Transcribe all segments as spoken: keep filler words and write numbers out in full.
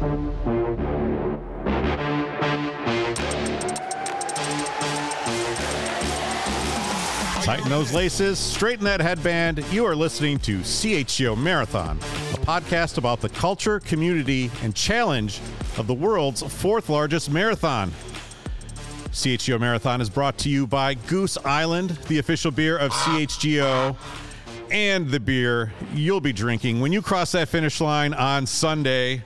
Tighten those laces, straighten that headband. You are listening to C H G O Marathon, a podcast about the culture, community, and challenge of the world's fourth largest marathon. C H G O Marathon is brought to you by Goose Island, the official beer of C H G O, and the beer you'll be drinking when you cross that finish line on Sunday.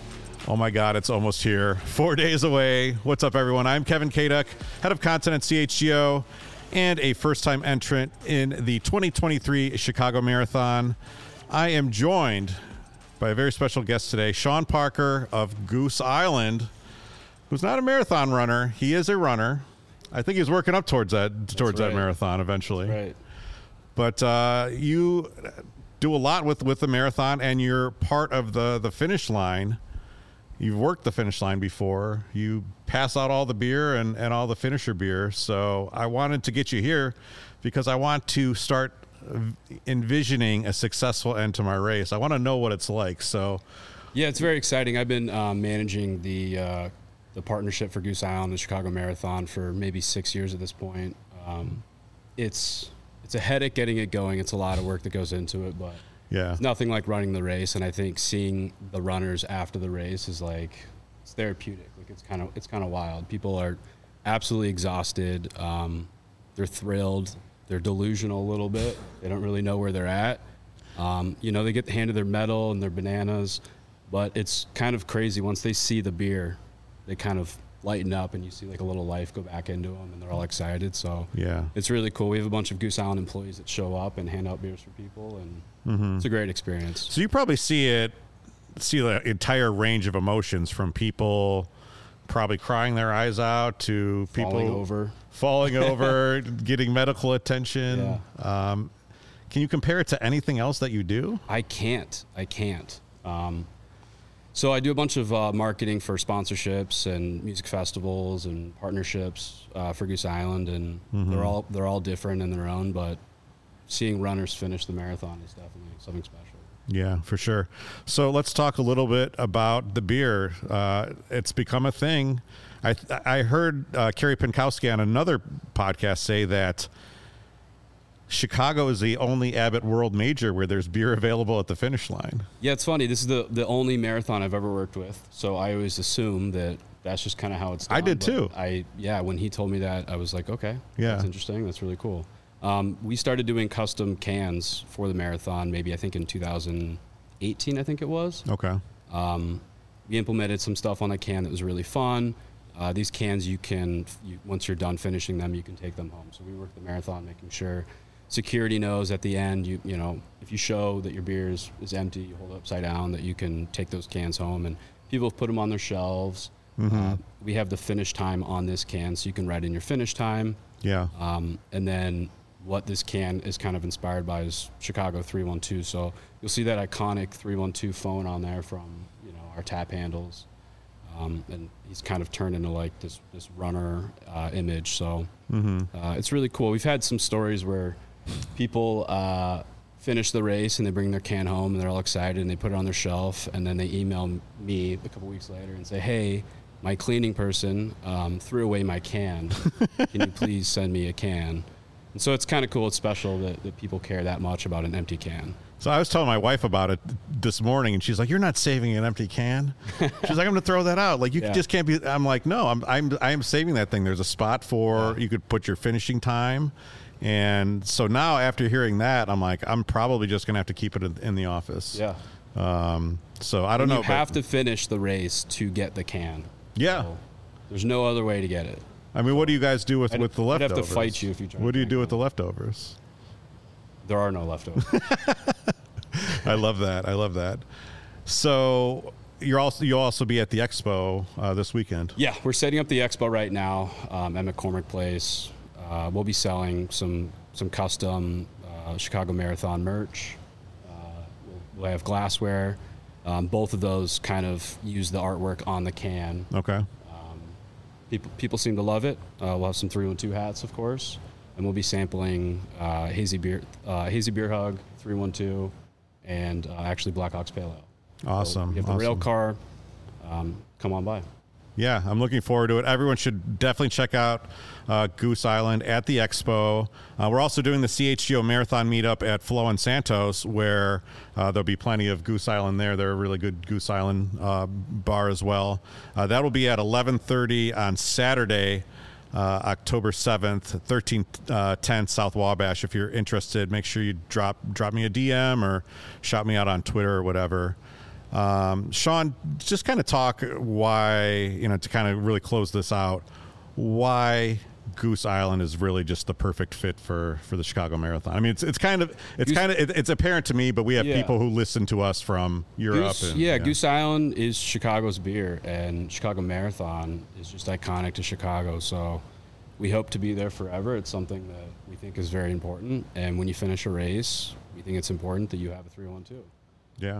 Oh my God, it's almost here. Four days away. What's up, everyone? I'm Kevin Kaduk, head of content at C H G O, and a first-time entrant in the twenty twenty-three Chicago Marathon. I am joined by a very special guest today, Sean Parker of Goose Island, who's not a marathon runner. He is a runner. I think he's working up towards that towards right. that marathon eventually. Right. But uh, you do a lot with, with the marathon, and you're part of the, the finish line. You've worked the finish line before. You pass out all the beer and, and all the finisher beer. So I wanted to get you here because I want to start envisioning a successful end to my race. I want to know what it's like. So, yeah, it's very exciting. I've been um, managing the uh, the partnership for Goose Island, the Chicago Marathon, for maybe six years at this point. Um, it's it's a headache getting it going. It's a lot of work that goes into it, but yeah, it's nothing like running the race. And I think seeing the runners after the race is like, it's therapeutic. Like it's kind of it's kind of wild. People are absolutely exhausted. Um, they're thrilled. They're delusional a little bit. They don't really know where they're at. Um, you know, they get handed their medal and their bananas, but it's kind of crazy. Once they see the beer, they kind of lighten up, and you see like a little life go back into them, and they're all excited. So yeah, it's really cool. We have a bunch of Goose Island employees that show up and hand out beers for people, and mm-hmm. it's a great experience. So you probably see it, see the entire range of emotions, from people probably crying their eyes out to people falling over, falling over, getting medical attention. Yeah. Um, can you compare it to anything else that you do? I can't. I can't. Um, so I do a bunch of uh, marketing for sponsorships and music festivals and partnerships uh, for Goose Island, and mm-hmm. they're all they're all different in their own. But seeing runners finish the marathon is definitely something special. Yeah, for sure. So let's talk a little bit about the beer. Uh, it's become a thing. I I heard uh, Carrie Pinkowski on another podcast say that Chicago is the only Abbott World Major where there's beer available at the finish line. Yeah, it's funny. This is the, the only marathon I've ever worked with, so I always assume that that's just kind of how it's done. I did too. I yeah, when he told me that, I was like, okay, yeah, that's interesting. That's really cool. Um, we started doing custom cans for the marathon, maybe I think in two thousand eighteen, I think it was. Okay. Um, we implemented some stuff on the can that was really fun. Uh, these cans, you can, you, once you're done finishing them, you can take them home. So we worked the marathon making sure security knows at the end, you you know, if you show that your beer is, is empty, you hold it upside down, that you can take those cans home. And people have put them on their shelves. Mm-hmm. Uh, we have the finish time on this can, so you can write in your finish time. Yeah. Um, and then what this can is kind of inspired by is Chicago three one two. So you'll see that iconic three one two phone on there from, you know, our tap handles. Um, and he's kind of turned into like this, this runner uh, image. So mm-hmm. uh, it's really cool. We've had some stories where people uh, finish the race and they bring their can home and they're all excited and they put it on their shelf, and then they email me a couple weeks later and say, hey, my cleaning person um, threw away my can. Can you please send me a can? And so it's kind of cool. It's special that, that people care that much about an empty can. So I was telling my wife about it this morning, and she's like, "You're not saving an empty can." She's like, "I'm going to throw that out. Like, you yeah. just can't be." I'm like, "No, I'm I'm I'm saving that thing. There's a spot for yeah. you could put your finishing time." And so now, after hearing that, I'm like, I'm probably just going to have to keep it in, in the office. Yeah. Um. So I don't and know. You have to finish the race to get the can. Yeah. So there's no other way to get it. I mean, what do you guys do with, I'd, with the I'd leftovers? have to fight you if you try. What do you do it. with the leftovers? There are no leftovers. I love that. I love that. So you're also you'll also be at the expo uh, this weekend. Yeah, we're setting up the expo right now um, at McCormick Place. Uh, we'll be selling some some custom uh, Chicago Marathon merch. Uh, we'll, we'll have glassware. Um, both of those kind of use the artwork on the can. Okay. Um, people people seem to love it. Uh, we'll have some three one two hats, of course, and we'll be sampling uh, hazy beer, uh, hazy beer hug, three one two, and uh, actually Blackhawks Pale Ale. Awesome. So we have the awesome. rail car. um, come on by. Yeah, I'm looking forward to it. Everyone should definitely check out uh, Goose Island at the Expo. Uh, we're also doing the C H G O Marathon meetup at Flo and Santos, where uh, there'll be plenty of Goose Island there. They're a really good Goose Island uh, bar as well. Uh, that will be at eleven thirty on Saturday, uh, October seventh, thirteen ten South Wabash. If you're interested, make sure you drop drop me a D M or shout me out on Twitter or whatever. Um, Sean, just kind of talk why, you know, to kind of really close this out, why Goose Island is really just the perfect fit for, for the Chicago Marathon. I mean, it's it's kind of it's Goose, kind of it, it's apparent to me, but we have yeah. people who listen to us from Europe. Goose, and, yeah, yeah, Goose Island is Chicago's beer, and Chicago Marathon is just iconic to Chicago. So we hope to be there forever. It's something that we think is very important. And when you finish a race, we think it's important that you have a three one two. Yeah. Um,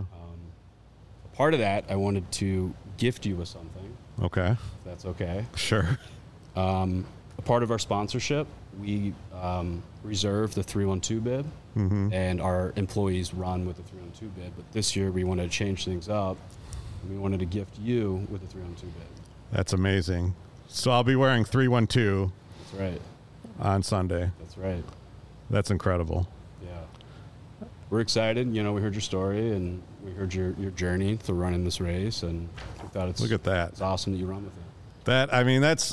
Part of that, I wanted to gift you with something. Okay. If that's okay. Sure. Um, a part of our sponsorship, we um, reserve the three one two bib, mm-hmm. and our employees run with the three one two bib. But this year, we wanted to change things up, and we wanted to gift you with the three one two bib. That's amazing. So I'll be wearing three one two. That's right. On Sunday. That's right. That's incredible. Yeah. We're excited. You know, we heard your story, and we heard your, your journey through running this race, and we thought it's, Look at that. It's awesome that you run with it. That, I mean, that's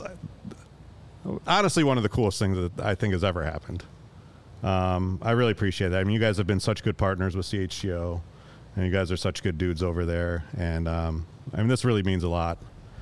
honestly one of the coolest things that I think has ever happened. Um, I really appreciate that. I mean, you guys have been such good partners with C H G O, and you guys are such good dudes over there. And, um, I mean, this really means a lot.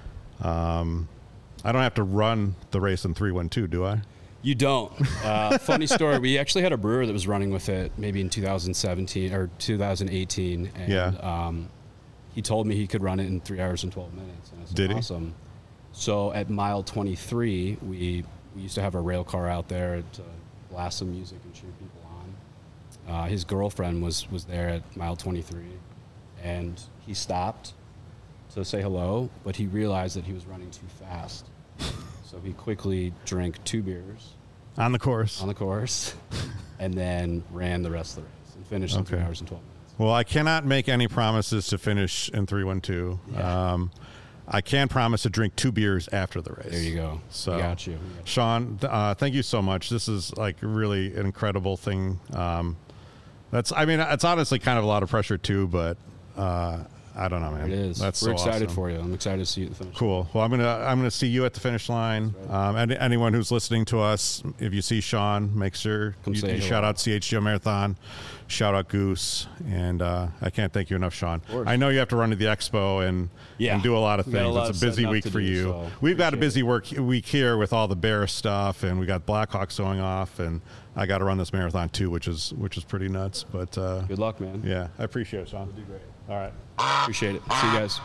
Um, I don't have to run the race in three one two, do I? You don't. Uh, funny story. We actually had a brewer that was running with it maybe in two thousand seventeen or two thousand eighteen. And, yeah. Um, he told me he could run it in three hours and twelve minutes. And I said, Did he? Awesome. So at mile twenty-three, we, we used to have a rail car out there to blast some music and cheer people on. Uh, his girlfriend was, was there at mile twenty-three, and he stopped to say hello, but he realized that he was running too fast. So he quickly drank two beers. On the course. On the course. And then ran the rest of the race and finished in okay. three hours and twelve minutes. Well, I cannot make any promises to finish in three one two. Yeah. Um, I can promise to drink two beers after the race. There you go. So, we got you. We got you. Sean, uh, thank you so much. This is like really an incredible thing. Um, that's, I mean, it's honestly kind of a lot of pressure too, but uh, I don't know, man. It is. That's We're so excited awesome. for you. I'm excited to see you at the finish. Cool. Well, I'm gonna I'm gonna see you at the finish line. Right. Um, and anyone who's listening to us, if you see Sean, make sure Come you, say you hello. shout out C H G O Marathon, shout out Goose, and uh, I can't thank you enough, Sean. course. I know you have to run to the expo and Yeah. and do a lot of We got a things. lot It's of a busy setting up week to for do, you. so We've got a appreciate busy it. work week here with all the Bears stuff, and we got Blackhawks going off, and I got to run this marathon too, which is which is pretty nuts. But uh, Good luck, man. yeah, I appreciate it, Sean. You'll do great. All right. Appreciate it. See you guys.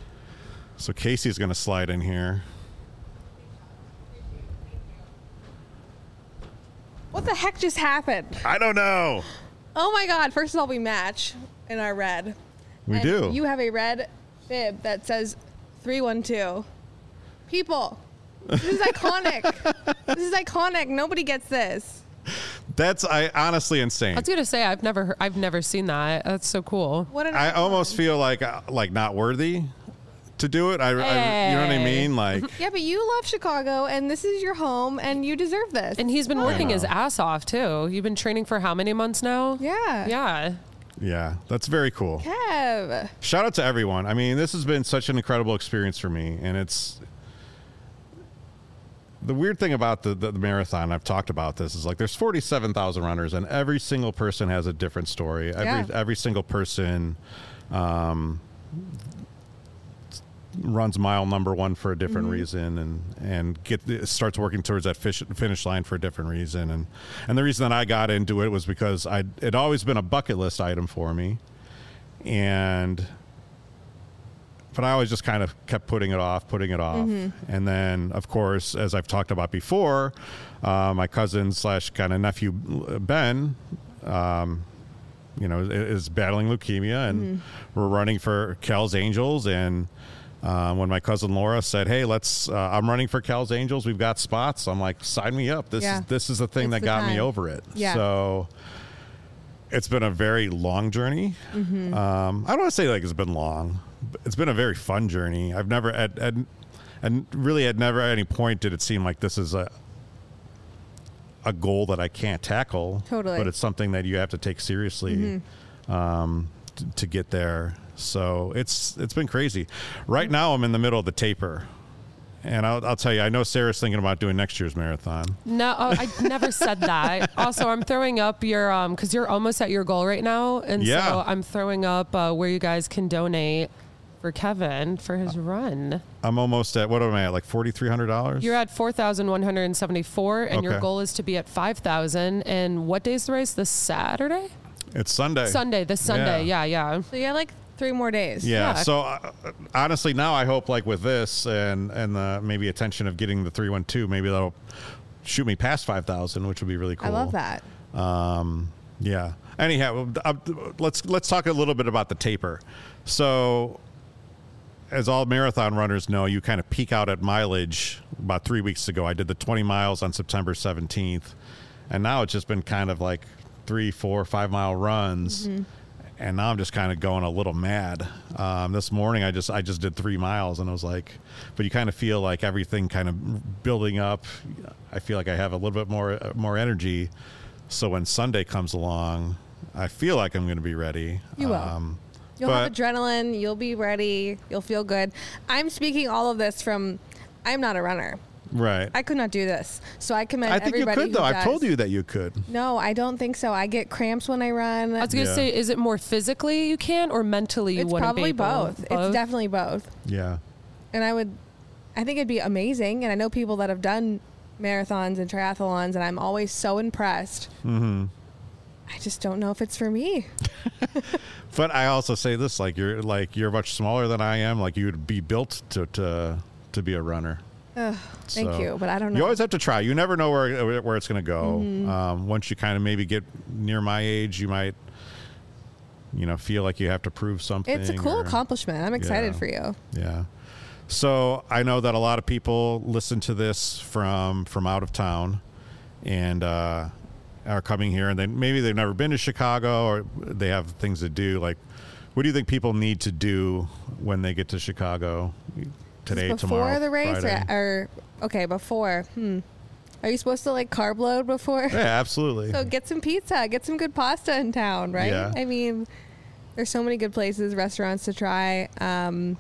So Casey's going to slide in here. What the heck just happened? I don't know. Oh my God. First of all, we match in our red. We And do. You have a red bib that says three one two. People, this is iconic. This is iconic. Nobody gets this. That's I honestly insane. I was gonna say I've never heard, I've never seen that. That's so cool. What an I icon. almost feel like uh, like not worthy to do it. I, I you know what I Hey. mean? Like Yeah, but you love Chicago, and this is your home, and you deserve this. And he's been working know. his ass off too. You've been training for how many months now? yeah. Yeah. yeah, that's very cool. Kev. Shout out to everyone. I mean, this has been such an incredible experience for me, and it's the weird thing about the, the, the marathon. I've talked about this is like there's forty-seven thousand runners, and every single person has a different story. Every Yeah. every single person um, runs mile number one for a different Mm-hmm. reason, and and get starts working towards that fish, finish line for a different reason. And and the reason that I got into it was because I it always been a bucket list item for me, and. But I always just kind of kept putting it off, putting it off. And then, of course, as I've talked about before, uh, my cousin slash kind of nephew, Ben, um, you know, is battling leukemia, and we're running for Cal's Angels. And uh, when my cousin Laura said, "Hey, let's," uh, I'm running for Cal's Angels. We've got spots. I'm like, sign me up. This Yeah. is this is the thing It's that the got me time. over it. Yeah. So it's been a very long journey. Um, I don't want to say like it's been long, it's been a very fun journey. I've never at, at and really at never at any point did it seem like this is a a goal that I can't tackle. Totally. But it's something that you have to take seriously mm-hmm. um, t- to get there. So it's it's been crazy. Right now I'm in the middle of the taper. And I'll, I'll tell you, I know Sarah's thinking about doing next year's marathon. No, oh, I never said that. Also, I'm throwing up your, um, because you're almost at your goal right now. And yeah. so I'm throwing up uh, where you guys can donate for Kevin for his run. I'm almost at, what am I at, like four thousand three hundred dollars? You're at four thousand one hundred seventy-four, and okay. your goal is to be at five thousand. And what day's the race? This Saturday? It's Sunday. Sunday, this Sunday. Yeah, yeah. yeah. So you have like three more days. Yeah. Yeah. So uh, honestly, now I hope like with this and and the maybe attention of getting the three one two, maybe that'll shoot me past five thousand, which would be really cool. I love that. Um, yeah. Anyhow, uh, let's let's talk a little bit about the taper. So, as all marathon runners know, you kind of peak out at mileage about three weeks ago. I did the twenty miles on September seventeenth, and now it's just been kind of like three, four, five mile runs. Mm-hmm. And now I'm just kind of going a little mad. Um, this morning I just I just did three miles and I was like, but you kind of feel like everything kind of building up. I feel like I have a little bit more more energy. So when Sunday comes along, I feel like I'm going to be ready. You will. Um, You'll but, have adrenaline. You'll be ready. You'll feel good. I'm speaking all of this from, I'm not a runner. Right. I could not do this. So I commend I think everybody you could, though. who I've does. told you that you could. No, I don't think so. I get cramps when I run. I was going to Yeah. say, is it more physically you can or mentally you It's wouldn't probably be able? both. It's definitely both. Yeah. And I would, I think it'd be amazing. And I know people that have done marathons and triathlons, and I'm always so impressed. Mm-hmm. I just don't know if it's for me. But I also say this, like you're like you're much smaller than I am. Like you would be built to to to be a runner. Ugh, thank So, you, but I don't know. You always have to try. You never know where where it's going to go. Mm-hmm. Um, once you kind of maybe get near my age, you might, you know, feel like you have to prove something. It's a cool or- accomplishment. I'm excited Yeah. for you. Yeah. So I know that a lot of people listen to this from from out of town, and uh, are coming here, and then maybe they've never been to Chicago, or they have things to do. Like, what do you think people need to do when they get to Chicago today, before tomorrow, the race, Friday? or, or okay, before. Hmm. Are you supposed to like carb load before? Yeah, absolutely. So get some pizza, get some good pasta in town, right? Yeah. I mean, there's so many good places, restaurants to try. Um,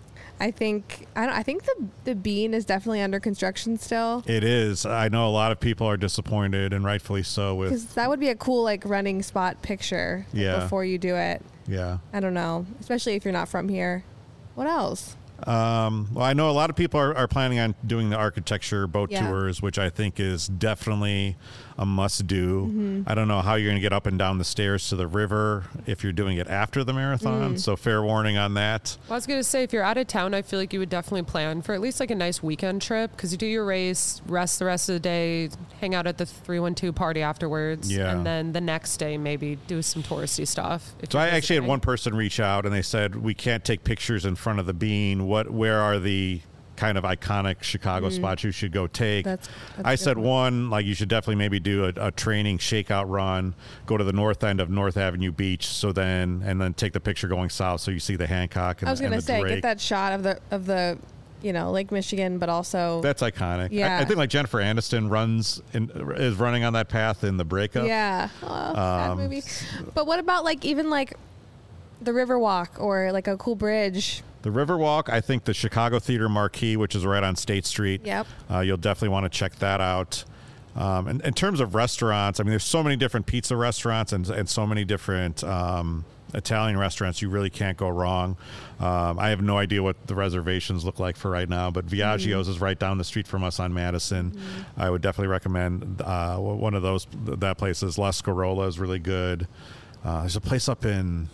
I think I don't. I think the the Bean is definitely under construction still. It is. I know a lot of people are disappointed, and rightfully so. With Because that would be a cool like running spot picture like, Yeah. before you do it. yeah. I don't know, especially if you're not from here. What else? Um, well, I know a lot of people are, are planning on doing the architecture boat Yeah. tours, which I think is definitely a must do. Mm-hmm. I don't know how you're going to get up and down the stairs to the river if you're doing it after the marathon. Mm. So fair warning on that. Well, I was going to say, if you're out of town, I feel like you would definitely plan for at least like a nice weekend trip because you do your race, rest the rest of the day, hang out at the three one two party afterwards, Yeah. and then the next day maybe do some touristy stuff. if So you're I actually had visiting. one person reach out and they said, we can't take pictures in front of the Bean. What, where are the kind of iconic Chicago spots you should go take? That's- that's I a good said point. one, like you should definitely maybe do a, a training shakeout run, go to the north end of North Avenue Beach. So then, and then take the picture going south. So you see the Hancock and, I was and gonna the say Drake. get that shot of the of the, you know, Lake Michigan, but also That's iconic. Yeah. I, I think like Jennifer Aniston runs in, is running on that path in the breakup. yeah, oh, sad Um, movie. But what about like even like the Riverwalk or like a cool bridge? The Riverwalk, I think the Chicago Theater Marquee, which is right on State Street. Yep. Uh, you'll definitely want to check that out. Um, and in terms of restaurants, I mean, there's so many different pizza restaurants and, and so many different um, Italian restaurants. You really can't go wrong. Um, I have no idea what the reservations look like for right now, but Viaggio's Mm-hmm. is right down the street from us on Madison. Mm-hmm. I would definitely recommend uh, one of those. That place is La Scarola is really good. Uh, there's a place up in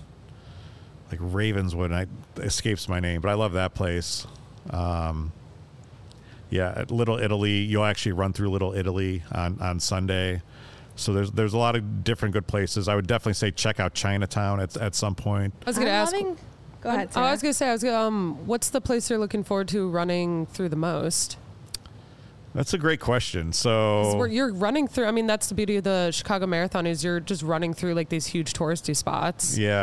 like Ravenswood. I, it escapes my name, but I love that place. Um, yeah, at Little Italy, you'll actually run through Little Italy on, on Sunday. So there's there's a lot of different good places. I would definitely say check out Chinatown at at some point. I was going to I'm ask. loving- Go ahead. Oh, Sarah. I was going to say, I was gonna, um, what's the place you're looking forward to running through the most? That's a great question. 'Cause So we're- you're running through. I mean, that's the beauty of the Chicago Marathon is you're just running through like these huge touristy spots. yeah.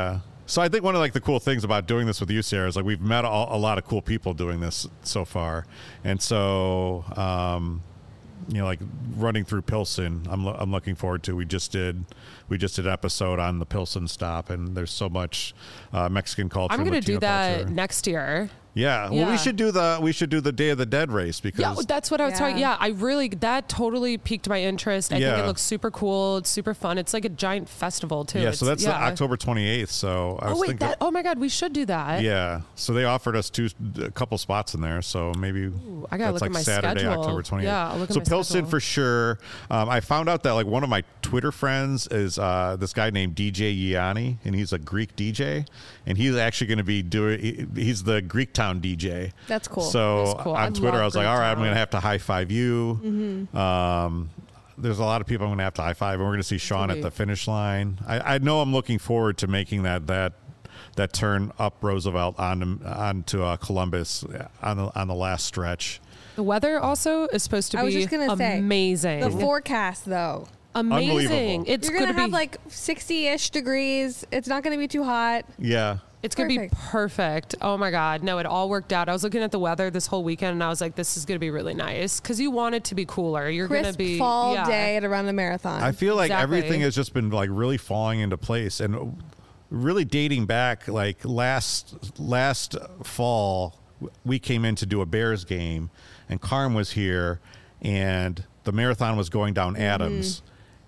So I think one of like the cool things about doing this with you, Sarah, is like we've met a, a lot of cool people doing this so far, and so um, you know, like running through Pilsen, I'm lo- I'm looking forward to. We just did we just did an episode on the Pilsen stop, and there's so much uh, Mexican culture. I'm going to do that culture. next year. Yeah. Well, Yeah. we should do the we should do the Day of the Dead race because Yeah, that's what I was Yeah. talking. Yeah, I really that totally piqued my interest. I think Yeah. it looks super cool. It's super fun. It's like a giant festival too. yeah. It's, So that's yeah. the October twenty-eighth. So I was Oh wait, thinking. that. Oh my God, we should do that. Yeah. So they offered us two a couple spots in there. So maybe Ooh, I gotta that's look like at my Saturday, schedule. October twenty-eighth. Yeah, I'll look at so my Pilsen schedule. for sure. Um, I found out that like one of my Twitter friends is uh, this guy named D J Yianni, and he's a Greek D J, and he's actually going to be doing. he- He's the Greek Town D J. That's cool. So That's cool. on I Twitter, love I was like, Greek all right, I'm Town. going to have to high five you. Mm-hmm. Um, there's a lot of people I'm going to have to high five, and we're going to see Sean at Sweet. the finish line. I, I know I'm looking forward to making that that that turn up Roosevelt on onto uh, Columbus on the on the last stretch. The weather also is supposed to I be was just gonna say, amazing. The forecast, though. amazing. Unbelievable. It's You're gonna gonna have be like sixty-ish degrees. It's not gonna be too hot. Yeah. It's going to be Perfect. perfect. Oh my God. No, it all worked out. I was looking at the weather this whole weekend and I was like, this is going to be really nice because you want it to be cooler. You're going to Crisp be. fall yeah. day to run a marathon. I feel like Exactly. everything has just been like really falling into place and really dating back like last last fall we came in to do a Bears game and Carm was here and the marathon was going down Adams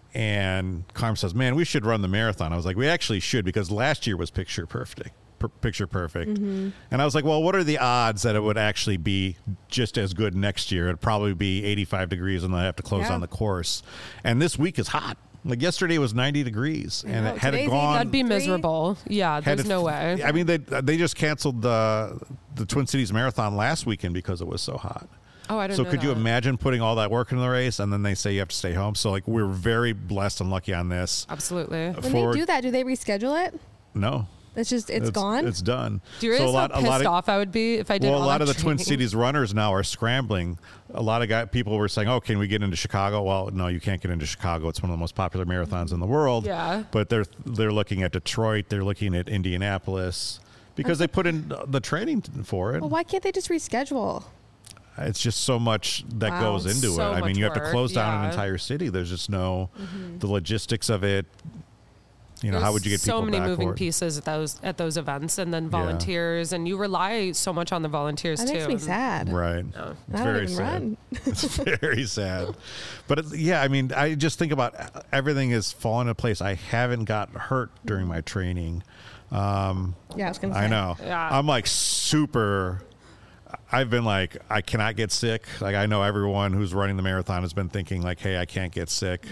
and Carm says, "Man, we should run the marathon." I was like, "We actually should because last year was picture perfect." per- Picture perfect. And I was like, well, what are the odds that it would actually be just as good next year? It'd probably be eighty-five degrees and they'll have to close Yeah. down the course. And this week is hot. Like yesterday was ninety degrees, and know. it had it Today's gone. That'd be Three? miserable. Yeah, had there's it- no way. I mean, they they just canceled the the Twin Cities Marathon last weekend because it was so hot. Oh, I didn't So know could you that. imagine putting all that work into the race, and then they say you have to stay home? So like we're very blessed and lucky on this. Absolutely. when For- they do that, do they reschedule it? No, It's just it's, gone. It's done. Do you realize so a lot, how a pissed lot of, off I would be if I did well, a all lot that of the Twin training? Cities runners now are scrambling. A lot of guy, people were saying, "Oh, can we get into Chicago?" Well, no, you can't get into Chicago. It's one of the most popular marathons in the world. Yeah. But they're they're looking at Detroit. They're looking at Indianapolis because they put in the training for it. well, why can't they just reschedule? It's just so much that Wow. goes into So it. I mean, much you have to work, close down an yeah. entire city. There's just no the logistics of it. You know, There's how would you get so people many back moving for it? pieces at those at those events, and then volunteers, and you rely so much on the volunteers That too. makes me and- sad. Right. No. It's I don't very even sad. run. It's very sad. But it's, yeah, I mean, I just think about everything is falling into place. I haven't got hurt during my training. Um, Yeah, I was gonna say. I know. Yeah. I'm like super. I've been like, I cannot get sick. Like, I know everyone who's running the marathon has been thinking, like, hey, I can't get sick.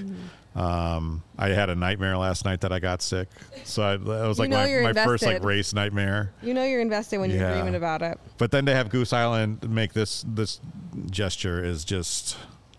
Um, I had a nightmare last night that I got sick. So I, that was You like know my, you're my first like invested. race nightmare. You know you're invested when Yeah. you're dreaming about it. But then to have Goose Island make this this gesture is just.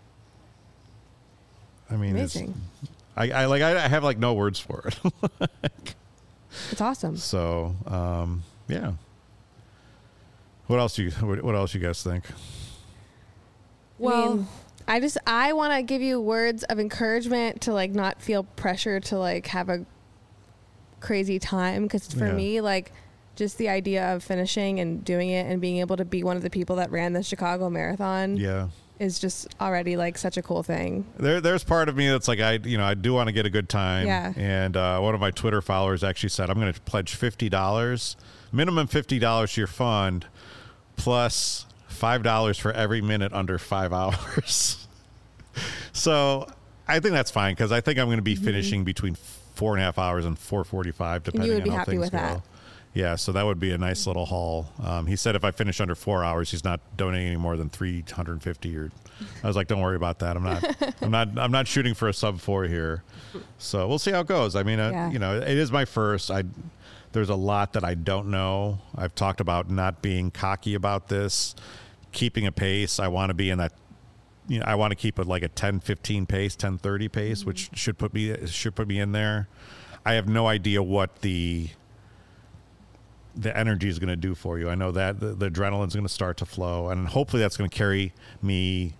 I mean, it's, Amazing. I, I like I have like no words for it. It's awesome. So um, yeah. What else do you what, what else you guys think? Well, I mean, I just I want to give you words of encouragement to like not feel pressure to like have a crazy time because for Yeah. me like just the idea of finishing and doing it and being able to be one of the people that ran the Chicago Marathon Yeah. is just already like such a cool thing. There, there's part of me that's like I, you know, I do want to get a good time. Yeah. And uh, one of my Twitter followers actually said, "I'm going to pledge fifty dollars, minimum fifty dollars to your fund, plus five dollars for every minute under five hours." So I think that's fine because I think I'm going to be finishing between four and a half hours and four forty-five, depending would on be how happy things with go. that. Yeah, so that would be a nice little haul. Um, he said if I finish under four hours, he's not donating any more than three hundred fifty. Or I was like, don't worry about that. I'm not. I'm not. I'm not shooting for a sub four here. So we'll see how it goes. I mean, uh, Yeah. you know, it is my first. I there's a lot that I don't know. I've talked about not being cocky about this, keeping a pace. I want to be in that. You know, I want to keep it like a ten fifteen pace, ten thirty pace, Mm-hmm. which should put me should put me in there. I have no idea what the the energy is going to do for you. I know that the, the adrenaline's going to start to flow, and hopefully that's going to carry me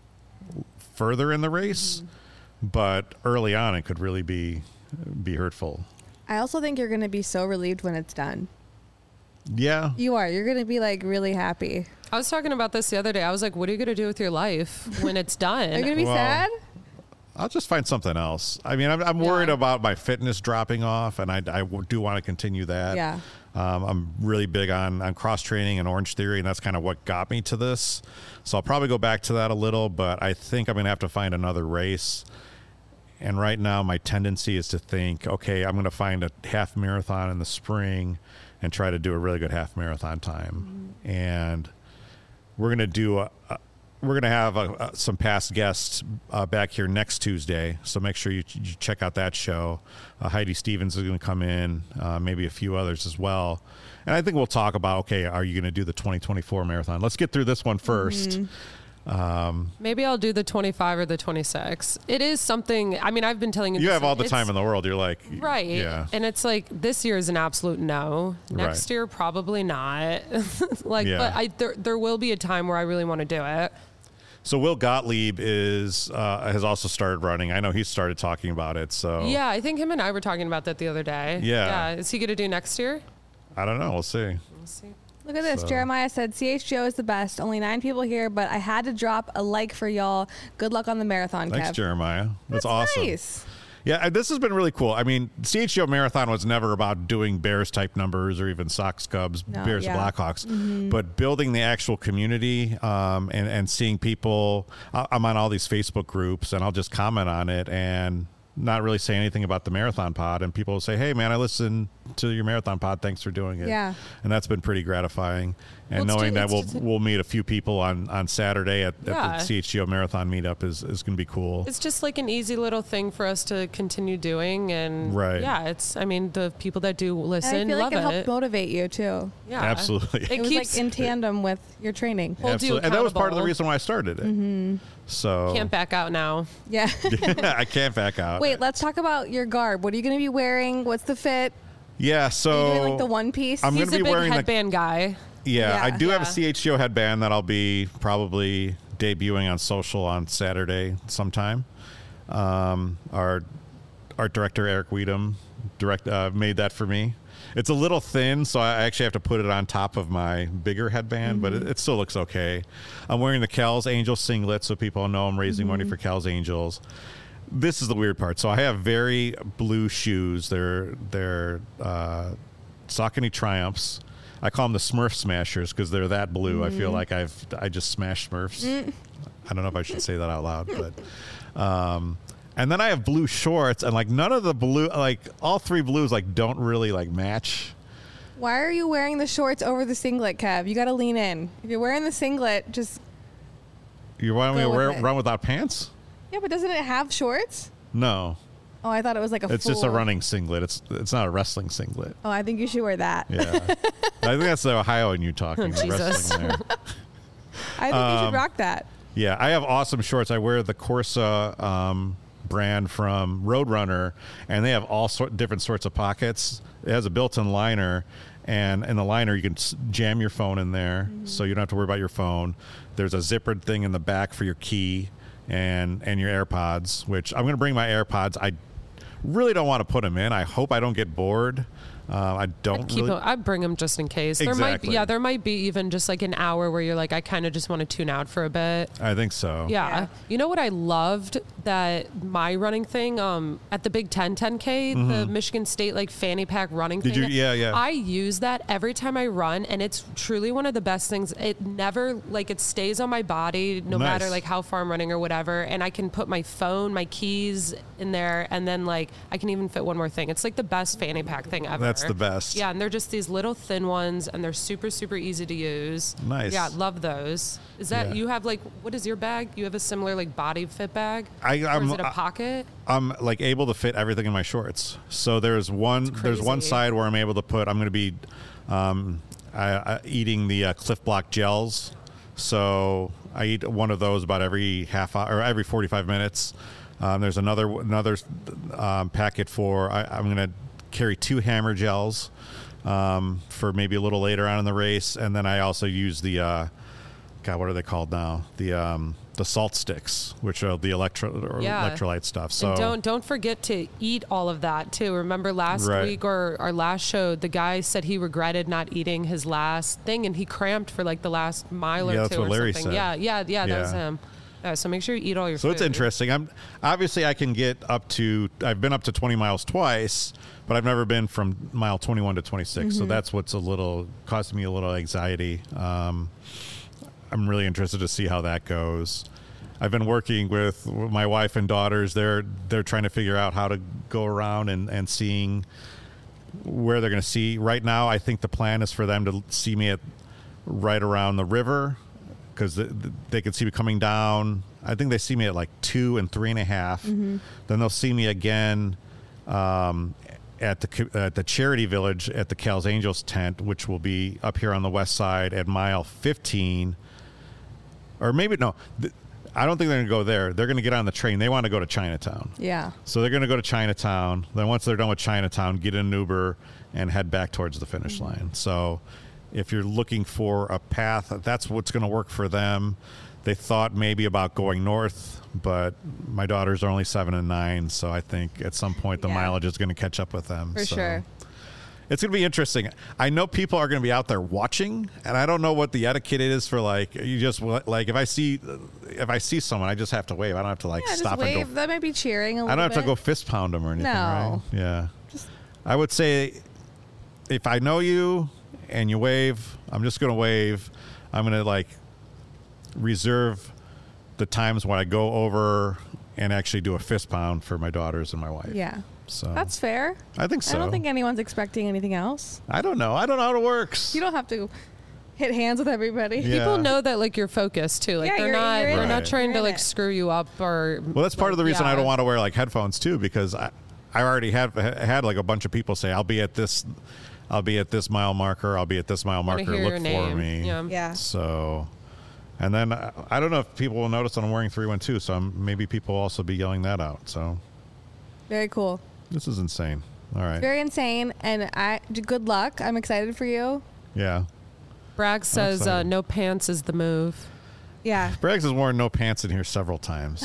further in the race. Mm-hmm. But early on, it could really be be hurtful. I also think you're going to be so relieved when it's done. Yeah. You are. You're going to be like really happy. I was talking about this the other day. I was like, what are you going to do with your life when it's done? Are you going to be Well, sad? I'll just find something else. I mean, I'm, I'm worried Yeah. about my fitness dropping off, and I, I do want to continue that. Yeah. Um, I'm really big on, on cross training and Orange Theory, and that's kind of what got me to this. So I'll probably go back to that a little, but I think I'm going to have to find another race. And right now, my tendency is to think, okay, I'm going to find a half marathon in the spring and try to do a really good half marathon time. Mm-hmm. And we're going to do a, a we're going to have a, a, some past guests uh, back here next Tuesday. So make sure you, you check out that show. Uh, Heidi Stevens is going to come in, uh, maybe a few others as well. And I think we'll talk about, okay, are you going to do the twenty twenty-four marathon? Let's get through this one first. Mm-hmm. Um, Maybe I'll do the twenty-five or the twenty-six. It is something, I mean, I've been telling you you this, have all the it's- time in the world. You're like, Right. Yeah. And it's like this year is an absolute no. Next Right. year, probably not. like, Yeah. but I there, there will be a time where I really want to do it. So Will Gottlieb is uh, has also started running. I know he started talking about it. So Yeah, I think him and I were talking about that the other day. Yeah. Yeah. Is he going to do next year? I don't know. We'll see. Let's see. Look at this. So- Jeremiah said, C H G O is the best. Only nine people here, but I had to drop a like for y'all. Good luck on the marathon, Thanks, Kev. Jeremiah. That's, That's awesome. nice. Yeah, uh, this has been really cool. I mean, C H G O Marathon was never about doing Bears type numbers or even Sox Cubs, No, Bears yeah. Blackhawks, Mm-hmm. but building the actual community um, and, and seeing people. I- I'm on all these Facebook groups and I'll just comment on it and not really say anything about the Marathon Pod. And people will say, hey, man, I listened to your Marathon Pod. Thanks for doing it. Yeah. And that's been pretty gratifying. And Well, it's knowing ju- that it's we'll just- we'll meet a few people on, on Saturday at, Yeah. at the C H G O Marathon meetup is, is going to be cool. It's just like an easy little thing for us to continue doing. And Right. yeah, it's, I mean, the people that do And listen I feel like love it it. helped motivate you, too. Yeah. Absolutely. It, It was keeps, like in tandem with your training. holds you Absolutely. And that was part of the accountable. reason why I started it. Mm-hmm. So can't back out now. Yeah. I can't back out. Wait, let's talk about your garb. What are you going to be wearing? What's the fit? Yeah, Are so you doing like the one piece? I'm He's gonna a be big wearing the- headband guy. yeah, Yeah. I do have a Yeah. C H G O headband that I'll be probably debuting on social on Saturday sometime. Um, our art director Eric Weedham direct uh, made that for me. It's a little thin, so I actually have to put it on top of my bigger headband, but it, it still looks okay. I'm wearing the Cal's Angels singlet, so people know I'm raising money for Cal's Angels. This is the weird part. So I have very blue shoes. They're they're uh, Saucony Triumphs. I call them the Smurf Smashers because they're that blue. I feel like I've I just smashed Smurfs. I don't know if I should say that out loud, but um, and then I have blue shorts and like none of the blue, like all three blues, like don't really like match. Why are you wearing the shorts over the singlet, Kev? You got to lean in. If you're wearing the singlet, just You want me Go to with wear, it. run without pants? yeah. But doesn't it have shorts? No, Oh, I thought it was like a. it's just a full- running singlet. It's it's not a wrestling singlet. Oh, I think you should wear that. Yeah, I think that's the Ohio in you talking. the Jesus. wrestling there. I think you Um, should rock that. Yeah, I have awesome shorts. I wear the Corsa um, brand from Roadrunner, and they have all sort different sorts of pockets. It has a built-in liner, and in the liner you can s- jam your phone in there, so you don't have to worry about your phone. There's a zippered thing in the back for your key and and your AirPods, which I'm going to bring my AirPods. I really don't want to put them in. I hope I don't get bored. Uh, I don't I'd keep really. them, I'd bring them just in case. There might be, Exactly. yeah, there might be even just like an hour where you're like, I kind of just want to tune out for a bit. I think so. Yeah. Yeah. You know what I loved that my running thing um at the Big Ten ten K, the Michigan State like fanny pack running Mm-hmm. Did thing. you- yeah, yeah. I use that every time I run and it's truly one of the best things. It never like it stays on my body no Nice. matter like how far I'm running or whatever, and I can put my phone, my keys in there, and then like I can even fit one more thing. It's like the best fanny pack thing ever. That's the best. Yeah, and they're just these little thin ones and they're super super easy to use. Nice. Yeah, love those. Is that Yeah. you have like what is your bag? You have a similar like body fit bag? I, or I'm, is it a I- pocket? I'm like able to fit everything in my shorts. So there's one there's one crazy. side where I'm able to put I'm going to be um, I, I, eating the uh, Cliff Block gels. So I eat one of those about every half hour or every forty-five minutes. Um, there's another another um, packet for I, I'm going to carry two hammer gels um, for maybe a little later on in the race, and then I also use the uh, God, what are they called now? The um, the salt sticks, which are the electro or Yeah. electrolyte stuff. So And don't don't forget to eat all of that too. Remember last Right. week or our last show, the guy said he regretted not eating his last thing, and he cramped for like the last mile or Yeah, two that's what or Larry something. said. Yeah, yeah, yeah, that was Yeah. him. Yeah, so make sure you eat all your So food. it's interesting. I'm obviously I can get up to I've been up to twenty miles twice, but I've never been from mile twenty-one to twenty-six. So that's what's a little causing me a little anxiety. Um, I'm really interested to see how that goes. I've been working with my wife and daughters. They're they're trying to figure out how to go around and, and seeing where they're going to see. Right now, I think the plan is for them to see me at right around the river, because the, the, they can see me coming down. I think they see me at like two and three and a half. Mm-hmm. Then they'll see me again um, at the at the Charity Village at the Cal's Angels tent, which will be up here on the west side at mile fifteen. Or maybe, no, th- I don't think they're going to go there. They're going to get on the train. They want to go to Chinatown. Yeah. So they're going to go to Chinatown. Then once they're done with Chinatown, get in an Uber and head back towards the finish Mm-hmm. line. So if you're looking for a path, that's what's going to work for them. They thought maybe about going north, but my daughters are only seven and nine, so I think at some point the Yeah. mileage is going to catch up with them. For so sure. It's going to be interesting. I know people are going to be out there watching, and I don't know what the etiquette is for, like, you just, like, if I see if I see someone, I just have to wave. I don't have to, like, Yeah, stop just and wave. go. That might be cheering a little I don't have bit. to go fist pound them or anything, No. right? Yeah. I would say if I know you and you wave, I'm just going to wave. I'm going to, like, reserve the times when I go over and actually do a fist pound for my daughters and my wife. Yeah. So That's fair. I think so. I don't think anyone's expecting anything else. I don't know. I don't know how it works. You don't have to hit hands with everybody. Yeah. People know that like you're focused too. Like Yeah, they're you're- not you're in they're it. not Right. trying You're to in like it. screw you up or Well, that's part like, of the reason yeah. I don't want to wear like headphones too, because I, I already have had like a bunch of people say I'll be at this, I'll be at this mile marker, I'll be at this mile Wanna marker. hear Look your for name. me. Yeah. Yeah. So, and then I, I don't know if people will notice that I'm wearing three one two. So I'm, maybe people will also be yelling that out. So Very cool. this is insane. All right. Very insane. And I good luck. I'm excited for you. Yeah. Bragg says uh, excited. no pants is the move. Yeah. Braggs has worn no pants in here several times.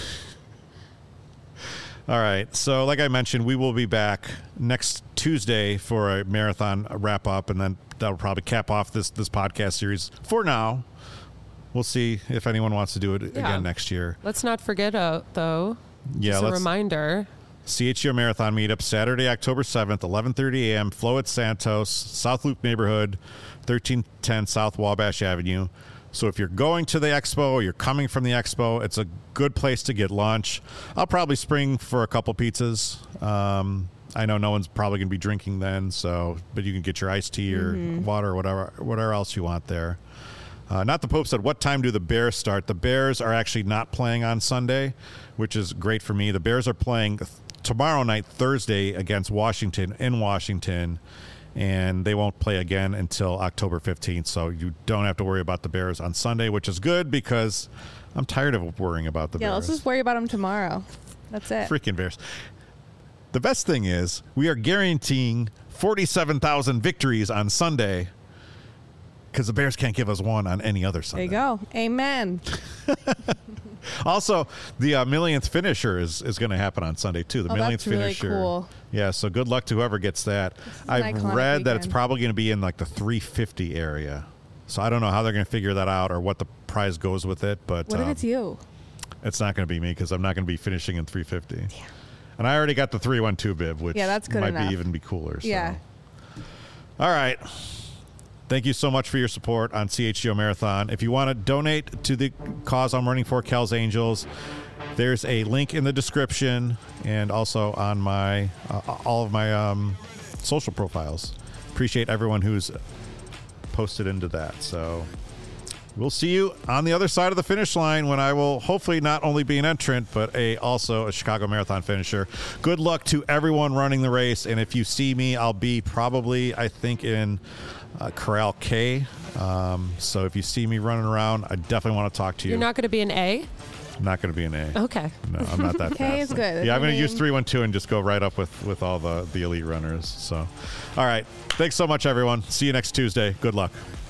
All right. So, like I mentioned, we will be back next Tuesday for a marathon wrap up, and then that'll probably cap off this this podcast series for now. We'll see if anyone wants to do it Yeah. again next year. Let's not forget uh, though. Yeah, Just a let's reminder. C H G O Marathon meetup Saturday, October seventh, eleven thirty a.m. Flow at Santos, South Loop neighborhood, thirteen ten South Wabash Avenue. So if you're going to the expo or you're coming from the expo, it's a good place to get lunch. I'll probably spring for a couple pizzas. Um, I know no one's probably going to be drinking then, so but you can get your iced tea or water or whatever, whatever else you want there. Uh, not the Pope said, what time do the Bears start? The Bears are actually not playing on Sunday, which is great for me. The Bears are playing th- tomorrow night, Thursday, against Washington in Washington, and they won't play again until October fifteenth. So you don't have to worry about the Bears on Sunday, which is good because I'm tired of worrying about the Yeah, Bears. let's just worry about them tomorrow. That's it. Freaking Bears. The best thing is we are guaranteeing forty-seven thousand victories on Sunday because the Bears can't give us one on any other There Sunday. you go. Amen. Also, the uh, millionth finisher is, is going to happen on Sunday too. The Oh, millionth that's really finisher. cool. Yeah, so good luck to whoever gets that. an I've iconic read that it's weekend. probably going to be in like the three fifty area. So I don't know how they're going to figure that out or what the prize goes with it, but What if um, it's you? it's not going to be me because I'm not going to be finishing in three fifty. And I already got the three one two bib, which Yeah, that's good might enough. be even be cooler. So. Yeah. All right. Thank you so much for your support on C H G O Marathon. If you want to donate to the cause I'm running for, Cal's Angels, there's a link in the description and also on my uh, all of my um, social profiles. Appreciate everyone who's posted into that. So we'll see you on the other side of the finish line when I will hopefully not only be an entrant, but a also a Chicago Marathon finisher. Good luck to everyone running the race. And if you see me, I'll be probably, I think, in uh, Corral K. Um, so if you see me running around, I definitely want to talk to you. You're not going to be an A? I'm not going to be an A. Okay. No, I'm not that K fast. is good. That's Yeah, I'm my going to use name. three one two and just go right up with, with all the, the elite runners. So, all right. Thanks so much, everyone. See you next Tuesday. Good luck.